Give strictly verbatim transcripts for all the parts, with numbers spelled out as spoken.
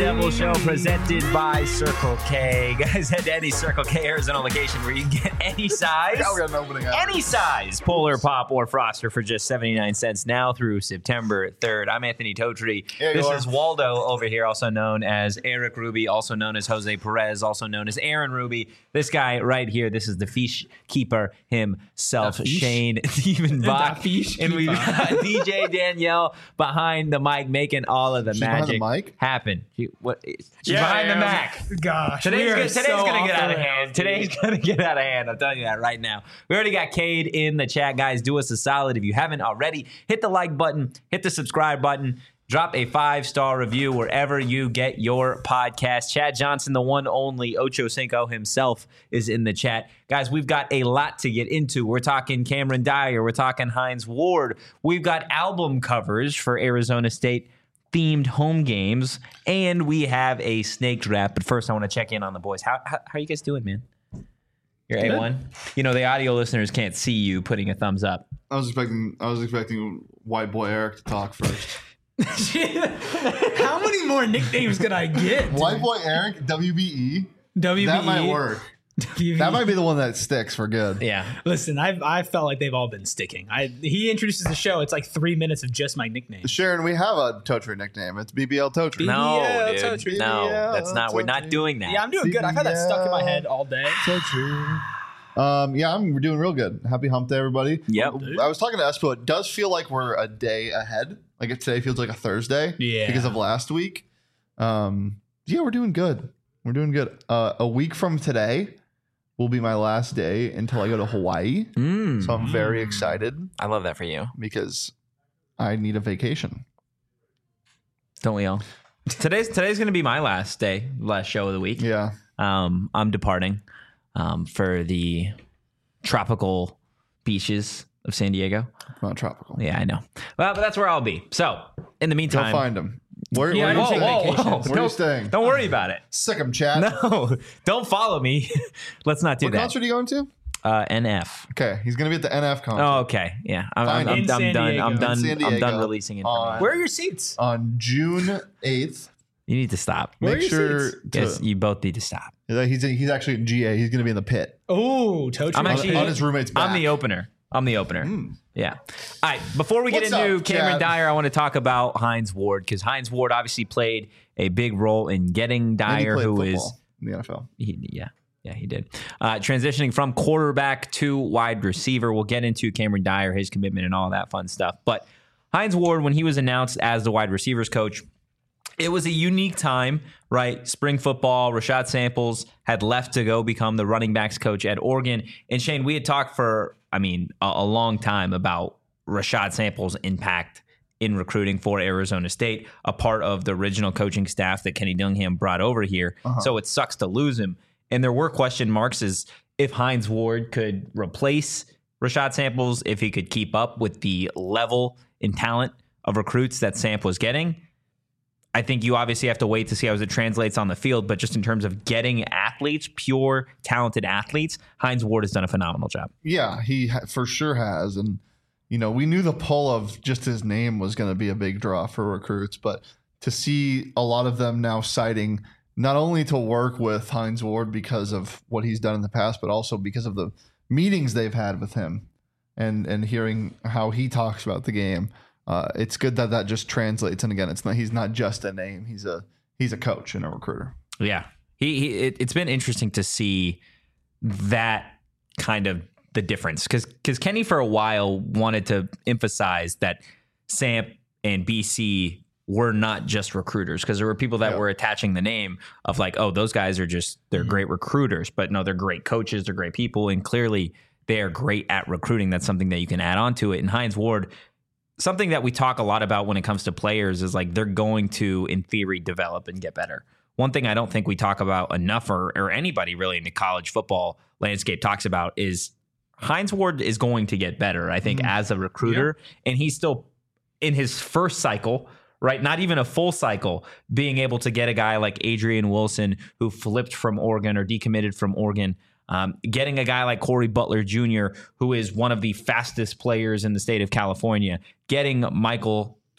Devil Show presented by Circle K. Guys, head to any Circle K Arizona location where you can get any size, Yeah, we got an opening hour. any size, Polar Pop or Froster for just seventy-nine cents now through September third. I'm Anthony Totri. Here This you are. is Waldo over here, also known as Eric Ruby, also known as Jose Perez, also known as Aaron Ruby. This guy right here, this is the fish keeper himself, The fish? Shane Diefenbach. The fish And we got D J Danielle behind the mic making all of the She's behind the magic mic? happen. She, what, she's Yeah, behind the yeah, Mac. Gosh, Today's, we are gonna, today's so gonna off get the out of rails, hand. dude. Today's gonna get out of hand. I'm telling you that right now. We already got Cade in the chat, guys. Do us a solid if you haven't already. Hit the like button, hit the subscribe button, drop a five-star review wherever you get your podcast. Chad Johnson, the one only Ocho Cinco himself, is in the chat. Guys, we've got a lot to get into. We're talking Cameron Dyer. We're talking Hines Ward. We've got album covers for Arizona State themed home games, and we have a snake draft. But first, I want to check in on the boys. How, how, how are you guys doing, man? You're A one. You know, the audio listeners can't see you putting a thumbs up. I was expecting. I was expecting White Boy Eric to talk first. How many more nicknames could I get? White Boy Eric, W B E. W B E. That might work. W B E. That might be the one that sticks for good. Yeah. Listen, I've I felt like they've all been sticking. I he introduces the show. It's like three minutes of just my nickname. Sharon, we have a Totri nickname. It's B B L Totri. No, Yeah, dude. that's what you- No, yeah, that's not. that's We're not okay. doing that. Yeah, I'm doing good. I've had that stuck in my head all day. Totri. Um, yeah, I'm we're doing real good. Happy hump day, everybody. Yep. I was talking to Espo. It does feel like we're a day ahead. Like it today feels like a Thursday. Yeah. Because of last week. Um, yeah, we're doing good. We're doing good. Uh, a week from today will be my last day until I go to Hawaii. Mm, So I'm very excited I love that for you. because I need a vacation. Don't we all? Today's today's gonna be my last day, last show of the week. Yeah. Um, I'm departing um, for the tropical beaches of San Diego. Not tropical. Yeah, I know. Well, but that's where I'll be. So, in the Go meantime, find them. Where, Yeah, where I are you don't staying? take whoa, vacations. whoa, Where are you don't, staying? don't worry about it. Sick 'em, chat. No, don't follow me. Let's not do What that. concert are you going to? Uh, N F. Okay, he's going to be at the N F concert Oh, okay. Yeah, I'm, I'm, Fine. I'm, In I'm San done. Diego. I'm In done. San I'm done Diego. releasing On- information. Where are your seats? on June eighth. You need to stop. Where are Make your sure seats? to. Yes, you both need to stop. He's, he's actually in G A. He's going to be in the pit. Oh, Totri. I'm On, actually- on his roommate's back. I'm the opener. I'm the opener. Mm. Yeah. All right. Before we get What's into up, Cameron Chad? Dyer, I want to talk about Hines Ward because Hines Ward obviously played a big role in getting And he Dyer, played who is football in the N F L. he, yeah. Yeah, he did. Uh, transitioning from quarterback to wide receiver. We'll get into Cameron Dyer, his commitment, and all that fun stuff. But Hines Ward, when he was announced as the wide receivers coach, it was a unique time, right? Spring football. Rashad Samples had left to go become the running backs coach at Oregon. And Shane, we had talked for, I mean, a, a long time about Rashad Samples' impact in recruiting for Arizona State, a part of the original coaching staff that Kenny Dillingham brought over here. Uh-huh. So it sucks to lose him. And there were question marks as if Hines Ward could replace Rashad Samples, if he could keep up with the level and talent of recruits that Samp was getting. I think you obviously have to wait to see how it translates on the field, but just in terms of getting athletes, pure talented athletes, Hines Ward has done a phenomenal job. Yeah, he ha- for sure has. And, you know, we knew the pull of just his name was going to be a big draw for recruits, but to see a lot of them now citing not only to work with Hines Ward because of what he's done in the past, but also because of the meetings they've had with him and, and hearing how he talks about the game. Uh, it's good that that just translates. And again, it's not, he's not just a name. He's a, he's a coach and a recruiter. Yeah. He, he it, it's been interesting to see that kind of the difference because because Kenny for a while wanted to emphasize that Samp and B C were not just recruiters because there were people that Yeah. were attaching the name of like, oh, those guys are just, they're Mm-hmm. great recruiters, but no, they're great coaches. They're great people. And clearly they are great at recruiting. That's something that you can add on to it. And Hines Ward, something that we talk a lot about when it comes to players is like they're going to, in theory, develop and get better. One thing I don't think we talk about enough, or, or anybody really in the college football landscape talks about, is Hines Ward is going to get better, I think, Mhm. as a recruiter. And he's still in his first cycle, right? Not even a full cycle, being able to get a guy like Adrian Wilson who flipped from Oregon or decommitted from Oregon. Um, getting a guy like Corey Butler Junior, who is one of the fastest players in the state of California, getting Michael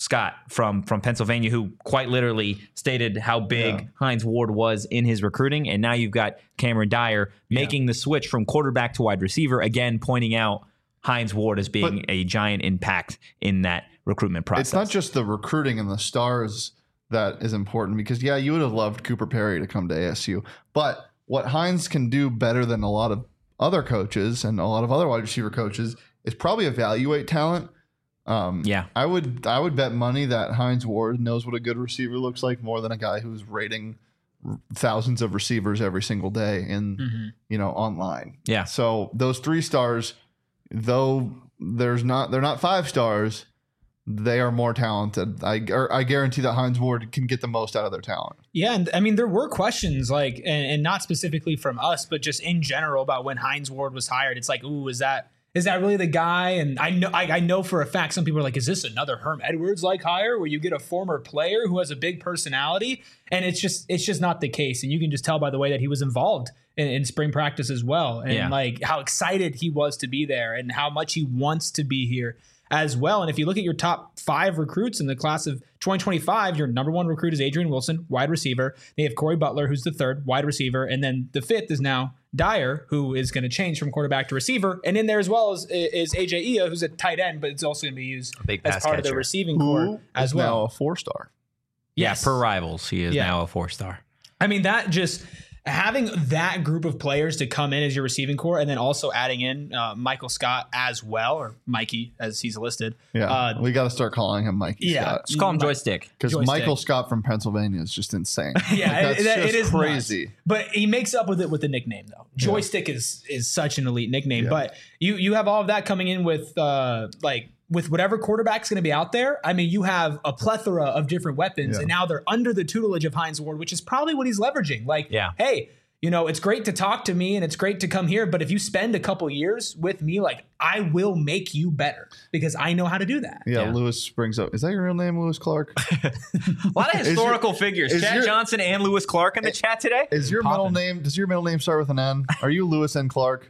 Scott from from Pennsylvania, who quite literally stated how big Yeah. Hines Ward was in his recruiting. And now you've got Cameron Dyer making the switch from quarterback to wide receiver, again, pointing out Hines Ward as being But- a giant impact in that recruitment process. It's not just the recruiting and the stars that is important because, yeah, you would have loved Cooper Perry to come to A S U. But what Hines can do better than a lot of other coaches and a lot of other wide receiver coaches is probably evaluate talent. Um, Yeah. I would I would bet money that Hines Ward knows what a good receiver looks like more than a guy who's rating r- thousands of receivers every single day in Mm-hmm. you know online. Yeah. So those three stars, though there's not they're not five stars, they are more talented. I or I guarantee that Hines Ward can get the most out of their talent. Yeah, and I mean there were questions like, and, and not specifically from us, but just in general about when Hines Ward was hired. It's like, ooh, is that is that really the guy? And I know I, I know for a fact some people are like, is this another Herm Edwards like hire where you get a former player who has a big personality? And it's just it's just not the case. And you can just tell by the way that he was involved in, in spring practice as well, and Yeah. like how excited he was to be there and how much he wants to be here as well. And if you look at your top five recruits in the class of twenty twenty-five, your number one recruit is Adrian Wilson, wide receiver. They have Corey Butler, who's the third wide receiver. And then the fifth is now Dyer, who is going to change from quarterback to receiver. And in there as well is, is A J Ia, who's a tight end, but it's also going to be used big as pass part of the catcher. receiving core as is well. now a four star. Yes. Yeah, per Rivals, he is Yeah. now a four-star. I mean, that just having that group of players to come in as your receiving core and then also adding in uh, Michael Scott as well, or Mikey as he's listed. Yeah, Uh, we got to start calling him Mikey yeah. Scott Just call him Joystick. because Joystick. Michael Scott from Pennsylvania is just insane. Yeah, Like, that's it, it- it just is crazy. nuts. But he makes up with it with the nickname though. Joystick is is such an elite nickname. Yeah. But you you have all of that coming in with uh like with whatever quarterback's going to be out there. I mean, you have a plethora of different weapons, Yeah. and now they're under the tutelage of Hines Ward, which is probably what he's leveraging. Like, Yeah. hey, you know, it's great to talk to me and it's great to come here, but if you spend a couple years with me, like I will make you better because I know how to do that. Yeah, Yeah. Lewis brings up. Is that your real name, Lewis Clark? A lot of your- historical figures. is Chad your- Johnson and Lewis Clark in the chat today. Is your middle name? Does your middle name start with an N? Are you Lewis N. Clark?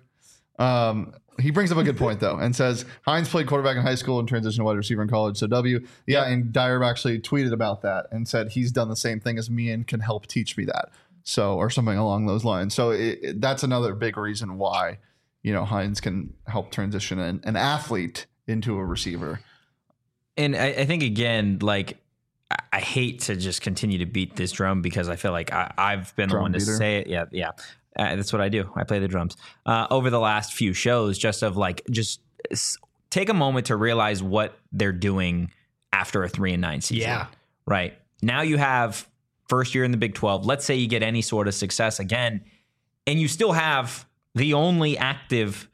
Um, he brings up a good point though, and says Hines played quarterback in high school and transitioned to wide receiver in college. So W, yeah, and Dyer actually tweeted about that and said he's done the same thing as me and can help teach me that. So or something along those lines. So it, it- that's another big reason why you know Hines can help transition an, an athlete into a receiver. And I, I think again, like I, I hate to just continue to beat this drum because I feel like I, I've been the Drum one to beater. say it. Yeah, yeah. Uh, that's what I do. I play the drums. Uh, over the last few shows, just of like, just s- take a moment to realize what they're doing after a three and nine season. Yeah. Right. Now you have first year in the Big twelve. Let's say you get any sort of success again, and you still have the only active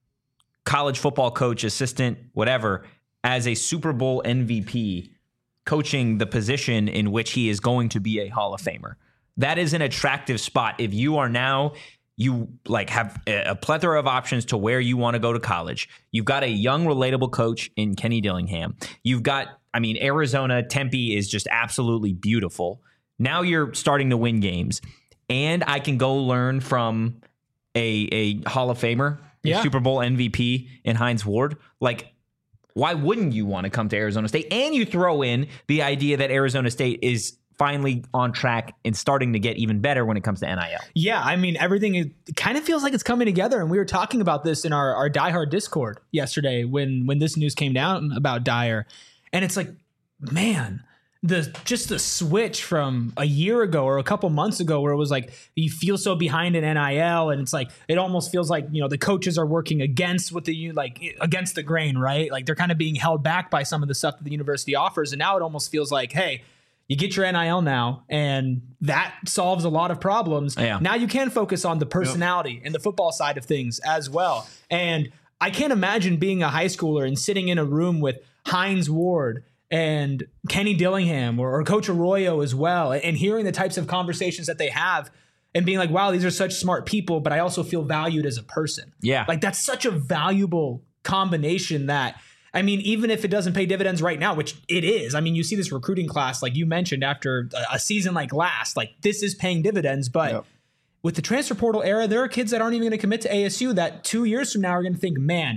college football coach, assistant, whatever, as a Super Bowl M V P coaching the position in which he is going to be a Hall of Famer. That is an attractive spot. If you are now, you like have a a plethora of options to where you want to go to college. You've got a young, relatable coach in Kenny Dillingham. You've got, I mean, Arizona, Tempe is just absolutely beautiful. Now you're starting to win games. And I can go learn from a, a Hall of Famer, a Yeah. Super Bowl M V P in Hines Ward. Like, why wouldn't you want to come to Arizona State? And you throw in the idea that Arizona State is finally on track and starting to get even better when it comes to N I L. Yeah, I mean, everything is, it kind of feels like it's coming together. And we were talking about this in our, our Die Hard Discord yesterday when when this news came down about Dyer. And it's like, man, the just the switch from a year ago or a couple months ago where it was like you feel so behind in N I L and it's like it almost feels like, you know, the coaches are working against what the like against the grain, right? Like they're kind of being held back by some of the stuff that the university offers. And now it almost feels like, hey, you get your N I L now, and that solves a lot of problems. Yeah. Now you can focus on the personality and the football side of things as well. And I can't imagine being a high schooler and sitting in a room with Hines Ward and Kenny Dillingham or, or Coach Arroyo as well, and hearing the types of conversations that they have and being like, wow, these are such smart people, but I also feel valued as a person. Yeah. Like that's such a valuable combination that, I mean, even if it doesn't pay dividends right now, which it is, I mean, you see this recruiting class, like you mentioned, after a, a season like last, like this is paying dividends. But Yep. with the transfer portal era, there are kids that aren't even going to commit to A S U that two years from now are going to think, man,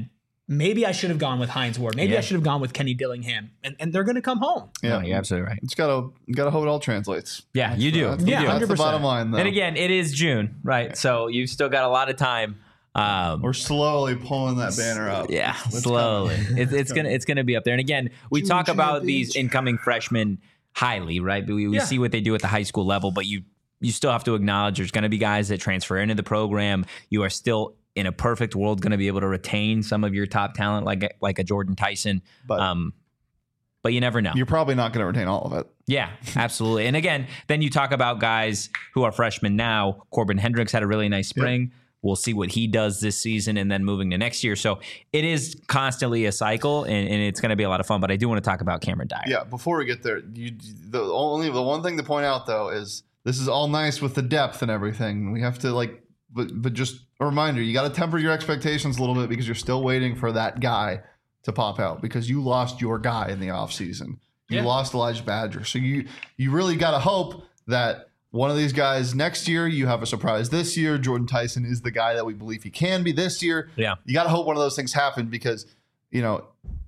maybe I should have gone with Hines Ward. Maybe Yeah. I should have gone with Kenny Dillingham. And, and they're going to come home. Yeah, No, you're absolutely right. It's gotta gotta hope it all translates. Yeah, you do. That's, You Yeah, do. that's the one hundred percent. bottom line, though. And again, it is June, right? So you've still got a lot of time. Um, We're slowly pulling that banner up. yeah, It's slowly. It, it's gonna it's gonna be up there. And again, we June talk about these champions. incoming freshmen highly, right? But we, we Yeah. see what they do at the high school level, but you you still have to acknowledge there's going to be guys that transfer into the program. You are still in a perfect world going to be able to retain some of your top talent, like like a Jordan Tyson. But Um, but you never know. you're probably not going to retain all of it. Yeah, absolutely. And again, then you talk about guys who are freshmen now. Corbin Hendricks had a really nice spring. We'll see what he does this season and then moving to next year. So it is constantly a cycle, and, and it's going to be a lot of fun. But I do want to talk about Cameron Dyer. Yeah, before we get there, you the only the one thing to point out though is this is all nice with the depth and everything. We have to like, but but just a reminder, you got to temper your expectations a little bit because you're still waiting for that guy to pop out because you lost your guy in the offseason. You Yeah. lost Elijah Badger, so you you really got to hope that one of these guys next year, you have a surprise this year. Jordan Tyson is the guy that we believe he can be this year. Yeah. You got to hope one of those things happen because, you know,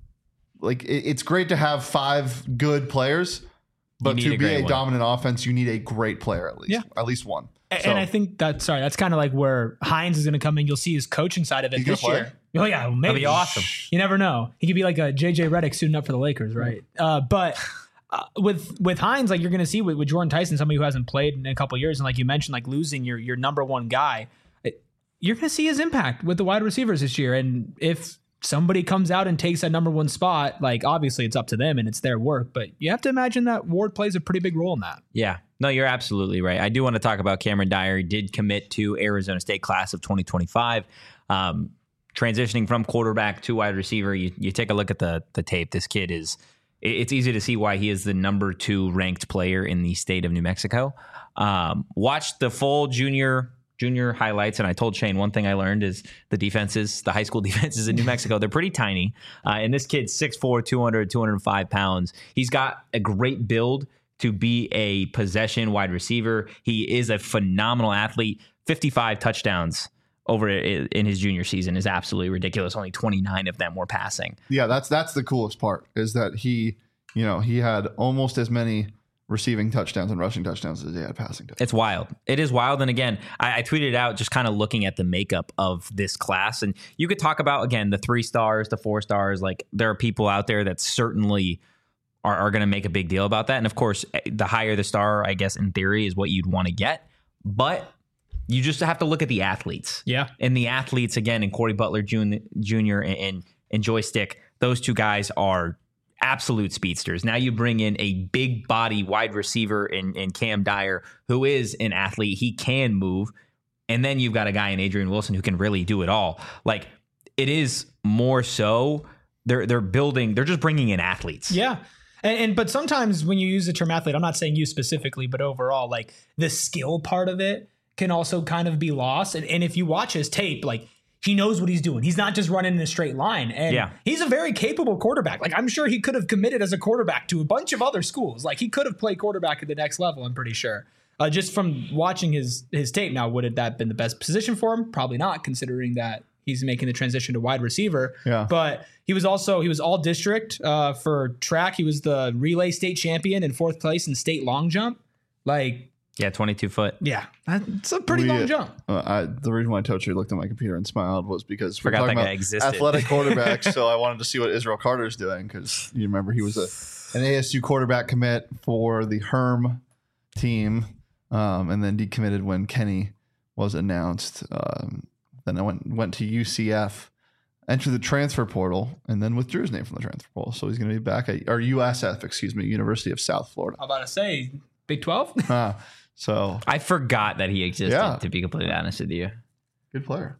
like it, it's great to have five good players, but need to a be great a one. dominant offense, you need a great player at least. Yeah. At least one. And, So- and I think that, sorry, that's kind of like where Hines is going to come in. You'll see his coaching side of it He's gonna this play? year. Oh, yeah. Maybe. That'd be awesome. You never know. He could be like a J J Redick suiting up for the Lakers, right? Uh, but uh, with with Hines, like you're going to see with, with Jordan Tyson, somebody who hasn't played in a couple of years, and like you mentioned, like losing your your number one guy, it, you're going to see his impact with the wide receivers this year. And if somebody comes out and takes that number one spot, like obviously it's up to them and it's their work, but you have to imagine that Ward plays a pretty big role in that. Yeah. No, you're absolutely right. I do want to talk about Cameron Dyer. He did commit to Arizona State class of twenty twenty-five. Um, transitioning from quarterback to wide receiver, you, you take a look at the the tape. This kid is, it- it's easy to see why he is the number two ranked player in the state of New Mexico. Um, watched the full junior junior highlights, and I told Shane one thing I learned is the defenses, the high school defenses in New Mexico, they're pretty tiny. Uh, and this kid's six foot four, two hundred, two hundred five pounds. He's got a great build to be a possession wide receiver. He is a phenomenal athlete. fifty-five touchdowns over i- in his junior season is absolutely ridiculous. Only twenty-nine of them were passing. Yeah, that's that's the coolest part is that he, you know, he had almost as many receiving touchdowns and rushing touchdowns as he had passing touchdowns. It's wild. It is wild. And again, I, I tweeted out just kind of looking at the makeup of this class. And you could talk about, again, the three stars, the four stars. Like there are people out there that certainly are, are going to make a big deal about that. And of course, the higher the star, I guess, in theory, is what you'd want to get. But you just have to look at the athletes. Yeah. And the athletes, again, and Corey Butler Junior and, and, and Joystick, those two guys are absolute speedsters. Now you bring in a big body wide receiver in, in Cam Dyer, who is an athlete. He can move. And then you've got a guy in Adrian Wilson who can really do it all. Like it is more so they're they're building, they're just bringing in athletes. Yeah. And, and but sometimes when you use the term athlete, I'm not saying you specifically, but overall, like the skill part of it can also kind of be lost. And, and if you watch his tape, like he knows what he's doing. He's not just running in a straight line. And Yeah. he's a very capable quarterback. Like I'm sure he could have committed as a quarterback to a bunch of other schools. Like he could have played quarterback at the next level, I'm pretty sure. Uh, just from watching his his tape. Now, would it that been the best position for him? Probably not, considering that he's making the transition to wide receiver. Yeah. But he was also, he was all district uh, for track. He was the relay state champion in fourth place in state long jump. Like, Yeah, twenty-two foot. yeah, that's a pretty We, long uh, jump. Uh, I, the reason why I told you looked at my computer and smiled was because we're Forgot talking that guy about existed. athletic quarterbacks. So I wanted to see what Israel Carter's doing because you remember he was a an A S U quarterback commit for the Herm team, um, and then decommitted when Kenny was announced. Um, then I went went to U C F, entered the transfer portal, and then withdrew his name from the transfer portal. So he's going to be back at or U S F, excuse me, University of South Florida. I'm about to say Big twelve. Ah, so I forgot that he existed, Yeah. to be completely honest with you. good player.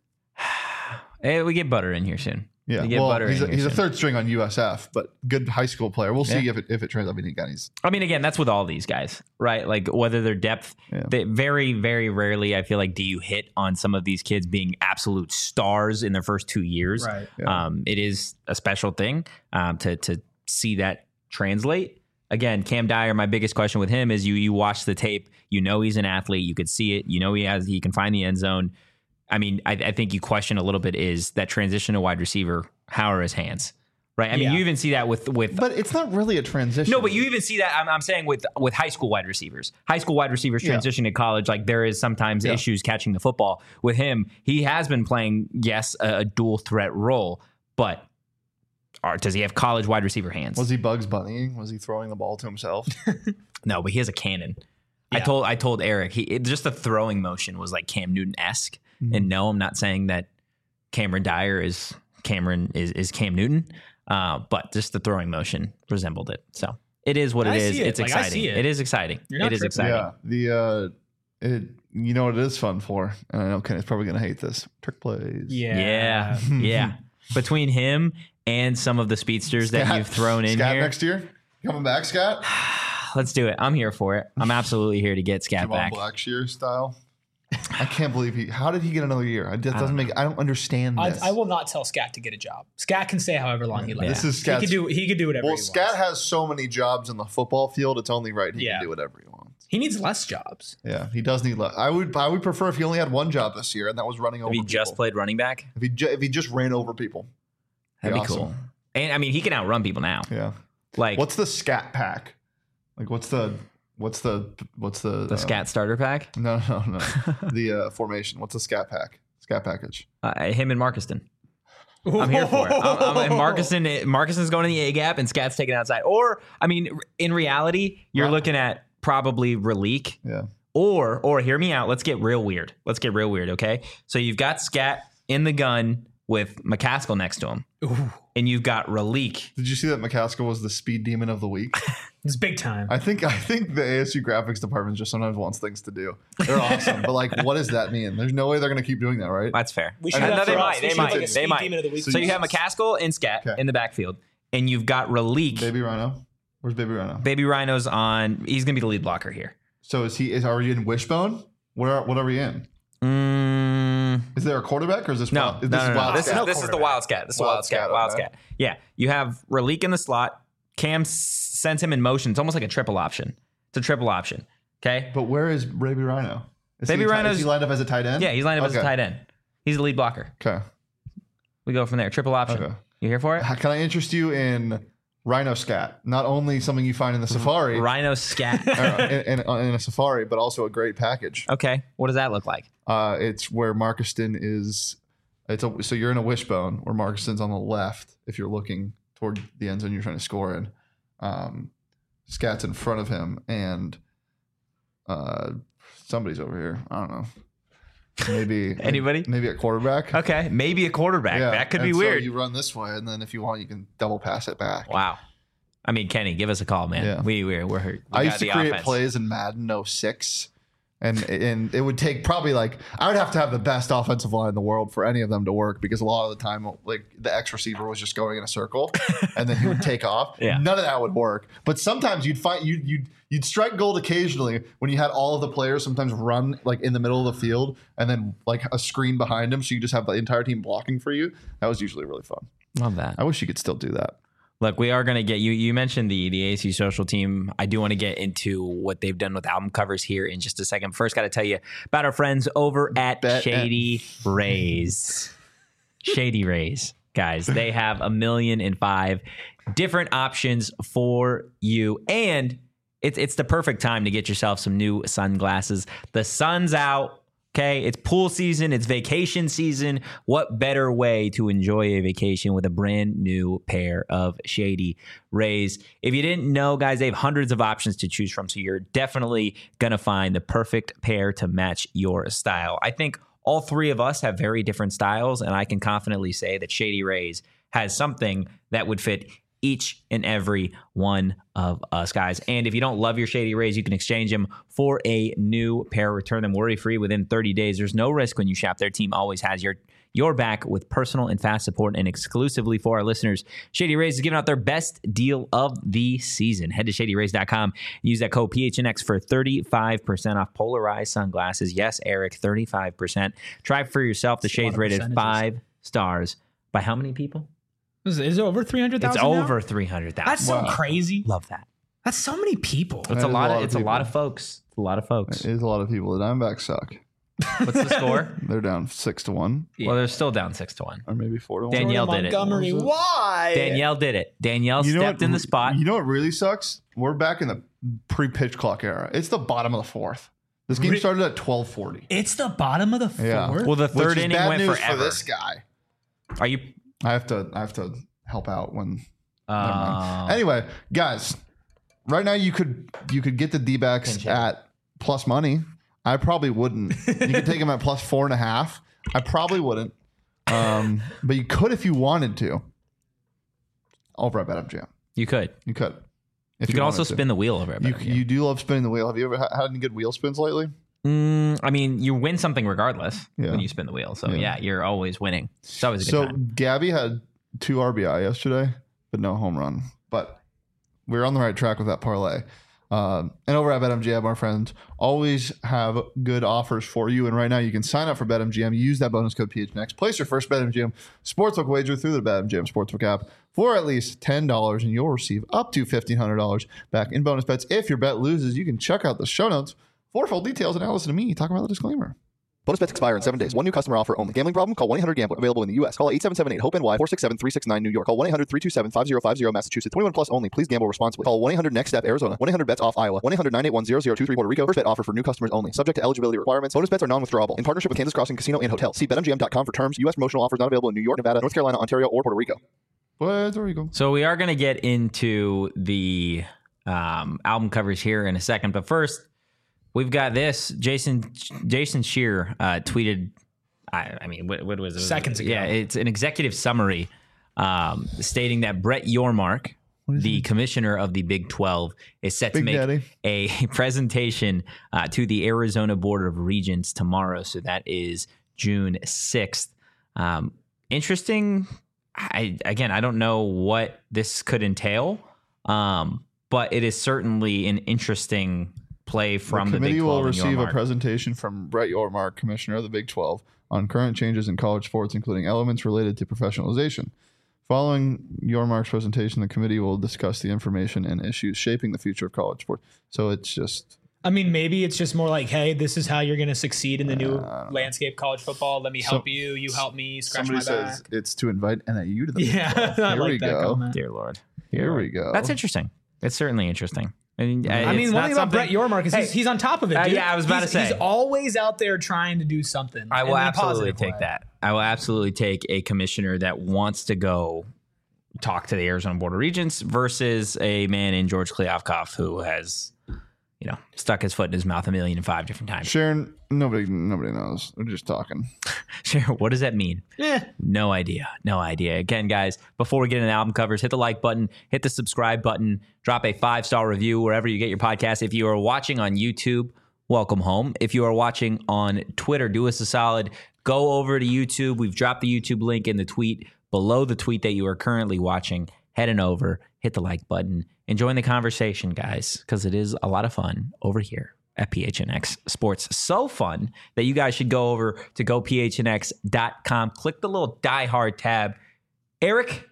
Hey, we get Butter in here soon. Yeah, We get well, Butter he's, in a, here he's a soon. third string on U S F, but good high school player. We'll see Yeah. if it if it turns out being guys. I mean, again, that's with all these guys, right? Like whether they're depth, Yeah. they very, very rarely, I feel like, do you hit on some of these kids being absolute stars in their first two years. Right. Yeah. Um, it is a special thing um, to to see that translate. Again, Cam Dyer, my biggest question with him is you you watch the tape, you know he's an athlete, you could see it, you know he has he can find the end zone. I mean, I, I think you question a little bit is that transition to wide receiver. How are his hands? Right. I mean, Yeah. you even see that with with. But it's not really a transition. No, but you even see that. I'm, I'm saying with with high school wide receivers, high school wide receivers Yeah. transitioning to college. Like there is sometimes Yeah. issues catching the football with him. He has been playing, yes, a, a dual threat role, but are, does he have college wide receiver hands? Was he Bugs Bunnying? Was he throwing the ball to himself? No, but he has a cannon. I Yeah. told I told Eric he it, just the throwing motion was like Cam Newton esque. Mm-hmm. And no, I'm not saying that Cameron Dyer is Cameron is is Cam Newton, uh, but just the throwing motion resembled it. So it is what it I is. see it. It's Like, I exciting. see it. It is exciting. You're not It is tripping. exciting. Yeah. The uh, it you know what it is fun for, and I know Kenny's probably gonna hate this. Trick plays. Yeah. Yeah, yeah. Between him and some of the speedsters that Scat- you've thrown in Scat here, next year. Coming back, Scott. let's do it. I'm here for it. I'm absolutely here to get Scat Javon back. Blackshear style. I can't believe he. How did he get another year? I just doesn't make. I don't understand I, this. I will not tell Scat to get a job. Scat can stay however long he likes. This is He Scat's. could do. He could do whatever. well, he Scat wants. has so many jobs in the football field. It's only right he Yeah. can do whatever he wants. He needs less jobs. Yeah, he does need. Le- I would. I would prefer if he only had one job this year, and that was running over. If he just people. played running back, If he ju- if he just ran over people, that'd be awesome. cool. And I mean, he can outrun people now. Yeah. Like What's the Scat pack? Like what's the what's the what's the the uh, Scat starter pack. No, no, no. the uh, formation. What's the Scat pack? Scat package. Uh, him and Marcuston. I'm here for it. I'm, I'm, Marcuston, Marcuston's going in the A gap and Scat's taken outside. Or, I mean, in reality, you're Right. looking at probably Relique. Yeah. Or, or hear me out. Let's get real weird. Let's get real weird, okay? So you've got Scat in the gun with McCaskill next to him. Ooh, And you've got Relique. Did you see that McCaskill was the speed demon of the week? it's big time. I think I think the A S U graphics department just sometimes wants things to do. They're awesome, but like, what does that mean? There's no way they're going to keep doing that, right? That's fair. We should I have know that they for might, us. they We should might, have, like, a they speed might. demon of the week. So you have McCaskill and Scat Okay. in the backfield. And you've got Relique. Baby, Baby Rhino. Where's Baby Rhino? Rhino's on. He's going to be the lead blocker here. So is he? Is are you in Wishbone? Where what are we in? Mm, Is there a quarterback or is this no, wild, no, is no, this no, no. wild This, is, Scat? this is the quarterback. Wild Scat. This is the Wild Wild Scat. Scat, Wild okay. Scat. Yeah. You have Relique in the slot. Cam s- sends him in motion. It's almost like a triple option. It's a triple option. Okay. But where is Baby Rhino? Is Baby he a ti- Rhino's- Is he lined up as a tight end? Yeah, he's lined up as a Okay. tight end. He's the lead blocker. Okay. We go from there. Triple option. Okay. You here for it? How- Can I interest you in Rhino Scat? Not only something you find in the safari, Rhino Scat. or in, in, in a safari, but also a great package. Okay. What does that look like? Uh, it's where Marcuston is. It's a, so you're in a wishbone where Marcuston's on the left. If you're looking toward the end zone, you're trying to score in. Um, Scat's in front of him, and uh, somebody's over here. I don't know. Maybe Anybody? Maybe a quarterback. Okay. Maybe a quarterback. That could and be so weird. you run this way, and then if you want, you can double pass it back. Wow. I mean, Kenny, give us a call, man. Yeah. We we're we're hurt. We I got used to the create offense. plays in Madden oh six, and and it would take probably like I would have to have the best offensive line in the world for any of them to work because a lot of the time like the X receiver was just going in a circle and then he would take off. Yeah. None of that would work. But sometimes you'd find you you'd you'd strike gold occasionally when you had all of the players sometimes run like in the middle of the field and then like a screen behind them so you just have the entire team blocking for you. That was usually really fun. Love that. I wish you could still do that. Look, we are going to get you. You mentioned the the A S U social team. I do want to get into what they've done with album covers here in just a second. First, got to tell you about our friends over at Bet- Shady Rays. Shady Rays, guys. They have a million and five different options for you, and it's it's the perfect time to get yourself some new sunglasses. The sun's out. Okay, it's pool season, it's vacation season. What better way to enjoy a vacation with a brand new pair of Shady Rays? If you didn't know, guys, they have hundreds of options to choose from, so you're definitely going to find the perfect pair to match your style. I think all three of us have very different styles, and I can confidently say that Shady Rays has something that would fit each and every one of us, guys. And if you don't love your Shady Rays, you can exchange them for a new pair. Return them worry-free within thirty days. There's no risk when you shop. Their team always has your your back with personal and fast support. And exclusively for our listeners, Shady Rays is giving out their best deal of the season. Head to shady rays dot com and use that code P H N X for thirty-five percent off polarized sunglasses. Yes, Eric, thirty-five percent. Try for yourself. The That's a lot shades of rated percentages. five stars. By how many people? Is, is it over three hundred It's thousand? over three hundred thousand. That's so Wow. crazy. Love that. That's so many people. It's That a is lot. a Of, lot of it's a lot people. of folks. It's a lot of folks. It is a lot of people. The Diamondbacks suck. What's the score? They're down six to one, Well, they're still down six to one. or maybe four to one. Danielle did it. Montgomery, why? Danielle did it. Danielle You know stepped what- in the spot. You know what really sucks? We're back in the pre-pitch clock era. It's the bottom of the fourth. This game Re- started at twelve forty. It's the bottom of the fourth. Yeah. Well, the third Which is inning bad went news forever. for this guy. Are you? I have to. I have to help out when. never Uh, mind. Anyway, guys, right now you could you could get the D-backs Pinch it. at plus money. I probably wouldn't. You could take them at plus four and a half. I probably wouldn't. Um, but you could if you wanted to. Over at BetMGM, you could. you could. If You, can also wanted to. spin the wheel over. At You, BetMGM. you do love spinning the wheel. Have you ever ha- had any good wheel spins lately? Mm, I mean, you win something regardless Yeah. when you spin the wheel. So Yeah. yeah, you're always winning. It's always a good So time. Gabby had two R B I yesterday, but no home run. But we're on the right track with that parlay. Um, and over at BetMGM, our friends always have good offers for you. And right now, you can sign up for BetMGM. Use that bonus code P H N X. Place your first BetMGM sportsbook wager through the BetMGM sportsbook app for at least ten dollars, and you'll receive up to fifteen hundred dollars back in bonus bets. If your bet loses, you can check out the show notes for full details and now listen to me talk about the disclaimer. Bonus bets expire in seven days. One new customer offer only. Gambling problem? Call one eight hundred gambler. Available in the U S. Call eight seven seven eight hope N Y four six seven three six nine New York. Call one eight hundred three two seven five zero five zero Massachusetts. twenty-one plus only. Please gamble responsibly. Call one eight hundred next step Arizona. one eight hundred bets off Iowa. one eight hundred nine eight one zero zero two three Puerto Rico. First bet offer for new customers only. Subject to eligibility requirements. Bonus bets are non-withdrawable. In partnership with Kansas Crossing Casino and Hotel. See bet M G M dot com for terms. U S promotional offers not available in New York, Nevada, North Carolina, Ontario, or Puerto Rico. Puerto Rico. So we are going to get into the um, album covers here in a second, but first we've got this. Jason Jason Shear uh, tweeted. I, I mean, what, what was it? Seconds ago. Yeah, it's an executive summary um, stating that Brett Yormark, the commissioner of the Big twelve, is set Big to make Daddy. a presentation uh, to the Arizona Board of Regents tomorrow. So that is June sixth. Um, interesting. I again, I don't know what this could entail, um, but it is certainly an interesting play from the the, committee Big twelve. will and receive a Yormark. presentation from Brett Yormark, Commissioner of the Big twelve, on current changes in college sports, including elements related to professionalization. Following Yormark's presentation, the committee will discuss the information and issues shaping the future of college sports. So it's just I mean, maybe it's just more like, hey, this is how you're going to succeed in the new landscape college football. Let me help So- you. You help me. Scratch somebody my back. says it's to invite N I U to the Big Yeah, twelve. I Here like we that go. comment. Dear Lord, Here we go. That's interesting. It's certainly interesting. I mean, uh, I mean, it's one not thing about something- Brett Yormark is Hey, he's, he's on top of it. uh, Dude. yeah, I was about he's, to say. he's always out there trying to do something. I in will a absolutely positive take way. that. I will absolutely take a commissioner that wants to go talk to the Arizona Board of Regents versus a man in George Kliavkoff who has, you know, stuck his foot in his mouth a million and five different times. Sharon, nobody nobody knows. We're just talking. Sure. What does that mean? Eh. No idea. No idea. Again, guys, before we get into album covers, hit the like button, hit the subscribe button, drop a five star review wherever you get your podcast. If you are watching on YouTube, welcome home. If you are watching on Twitter, do us a solid. Go over to YouTube. We've dropped the YouTube link in the tweet below the tweet that you are currently watching. Head on over, hit the like button, and join the conversation, guys, because it is a lot of fun over here at P H N X Sports. So fun that you guys should go over to go P H N X dot com. Click the little Die Hard tab. Eric,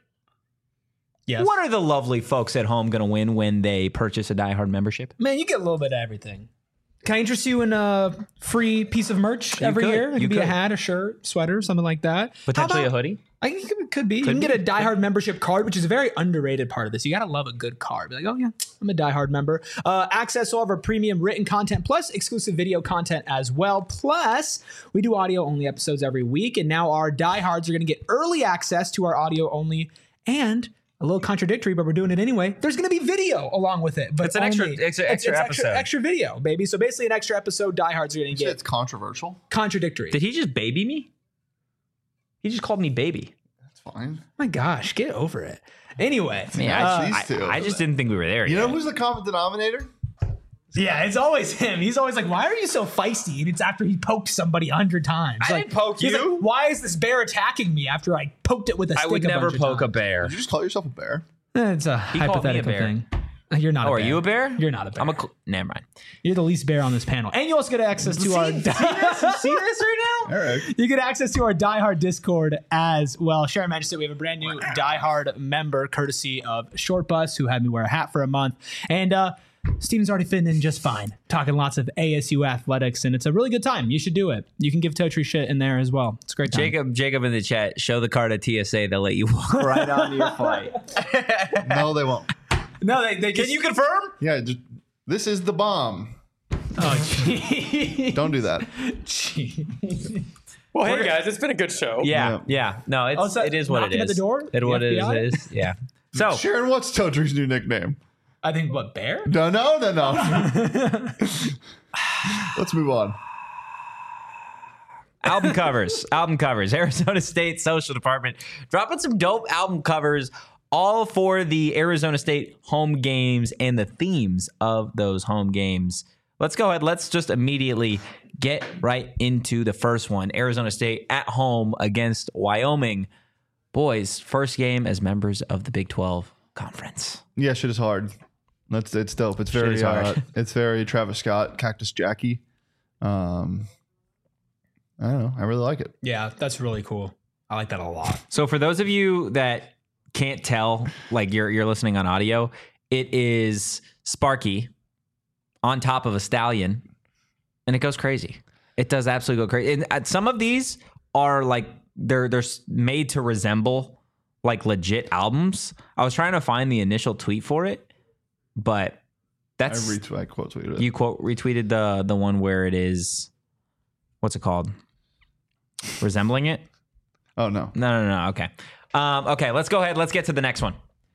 Yes. what are the lovely folks at home going to win when they purchase a Die Hard membership? Man, you get a little bit of everything. Can I interest you in a free piece of merch You every could. year? It You could be a could. hat, a shirt, sweater, something like that. Potentially How a about- hoodie? I think it could be. you Could can be. get a Die Hard membership card, which is a very underrated part of this. You got to love a good card. Be like, oh, yeah, I'm a Die Hard member. Uh, access to all of our premium written content, plus exclusive video content as well. Plus, we do audio-only episodes every week, and now our Die Hards are going to get early access to our audio-only, and a little contradictory, but we're doing it anyway. There's going to be video along with it. But It's an extra- only- extra- extra it's episode. Extra, extra video, baby. So basically an extra episode Die Hards are going to You said get it's controversial. contradictory. Did he just baby me? He just called me baby. That's fine. My gosh, get over it. Anyway. I mean, uh, I, these I, two. I just didn't think we were there You yet. know who's the common denominator? Yeah, it's always him. He's always like, why are you so feisty? And it's after he poked somebody a hundred times. I like, didn't poke he's you. like, why is this bear attacking me after I poked it with a stick I would a never bunch of poke a times? bear. Did you just call yourself a bear? Eh, It's a called me a hypothetical bear. thing. You're not Oh, a are bear. you a bear? You're not a bear. I'm a. Cl- Never mind. You're the least bear on this panel. And you also get access to our... see this? You see this right now? Eric. You get access to our Die Hard Discord as well. Sharon mentioned we have a brand new Die Hard member courtesy of Short Bus, who had me wear a hat for a month. And uh, Steven's already fitting in just fine, talking lots of A S U athletics, and it's a really good time. You should do it. You can give Totri shit in there as well. It's a great time. Jacob, Jacob in the chat, show the card at T S A. They'll let you walk right onto your flight. No, they won't. No, they, they Can just, you confirm? Yeah, just, this is the bomb. Oh, gee. Don't do that. Gee. Well, hey guys, it's been a good show. Yeah, Yeah. yeah. No, it's Oh, so it is what it knocking is. at the door? It The what it F B I? is, it is. Yeah. So Sharon, what's Totri's new nickname? I think, what, Bear? No, no, no, no. Let's move on. album covers, album covers. Arizona State Social Department dropping some dope album covers, all for the Arizona State home games and the themes of those home games. Let's go ahead. Let's just immediately get right into the first one. Arizona State at home against Wyoming. Boys, first game as members of the Big twelve Conference. Yeah, shit is hard. That's it's dope. It's very is hard. uh, it's very Travis Scott, Cactus Jackie. Um, I don't know. I really like it. Yeah, that's really cool. I like that a lot. So for those of you that can't tell, like you're you're listening on audio, it is Sparky on top of a stallion, and it goes crazy. It does absolutely go crazy. And uh, some of these are like they're they're made to resemble like legit albums. I was trying to find the initial tweet for it, but I that's retweet, I quote tweeted it. you quote retweeted the the one where it is, what's it called? Resembling it? Oh no, No, no, no. Okay. Um, okay, let's go ahead. Let's get to the next one.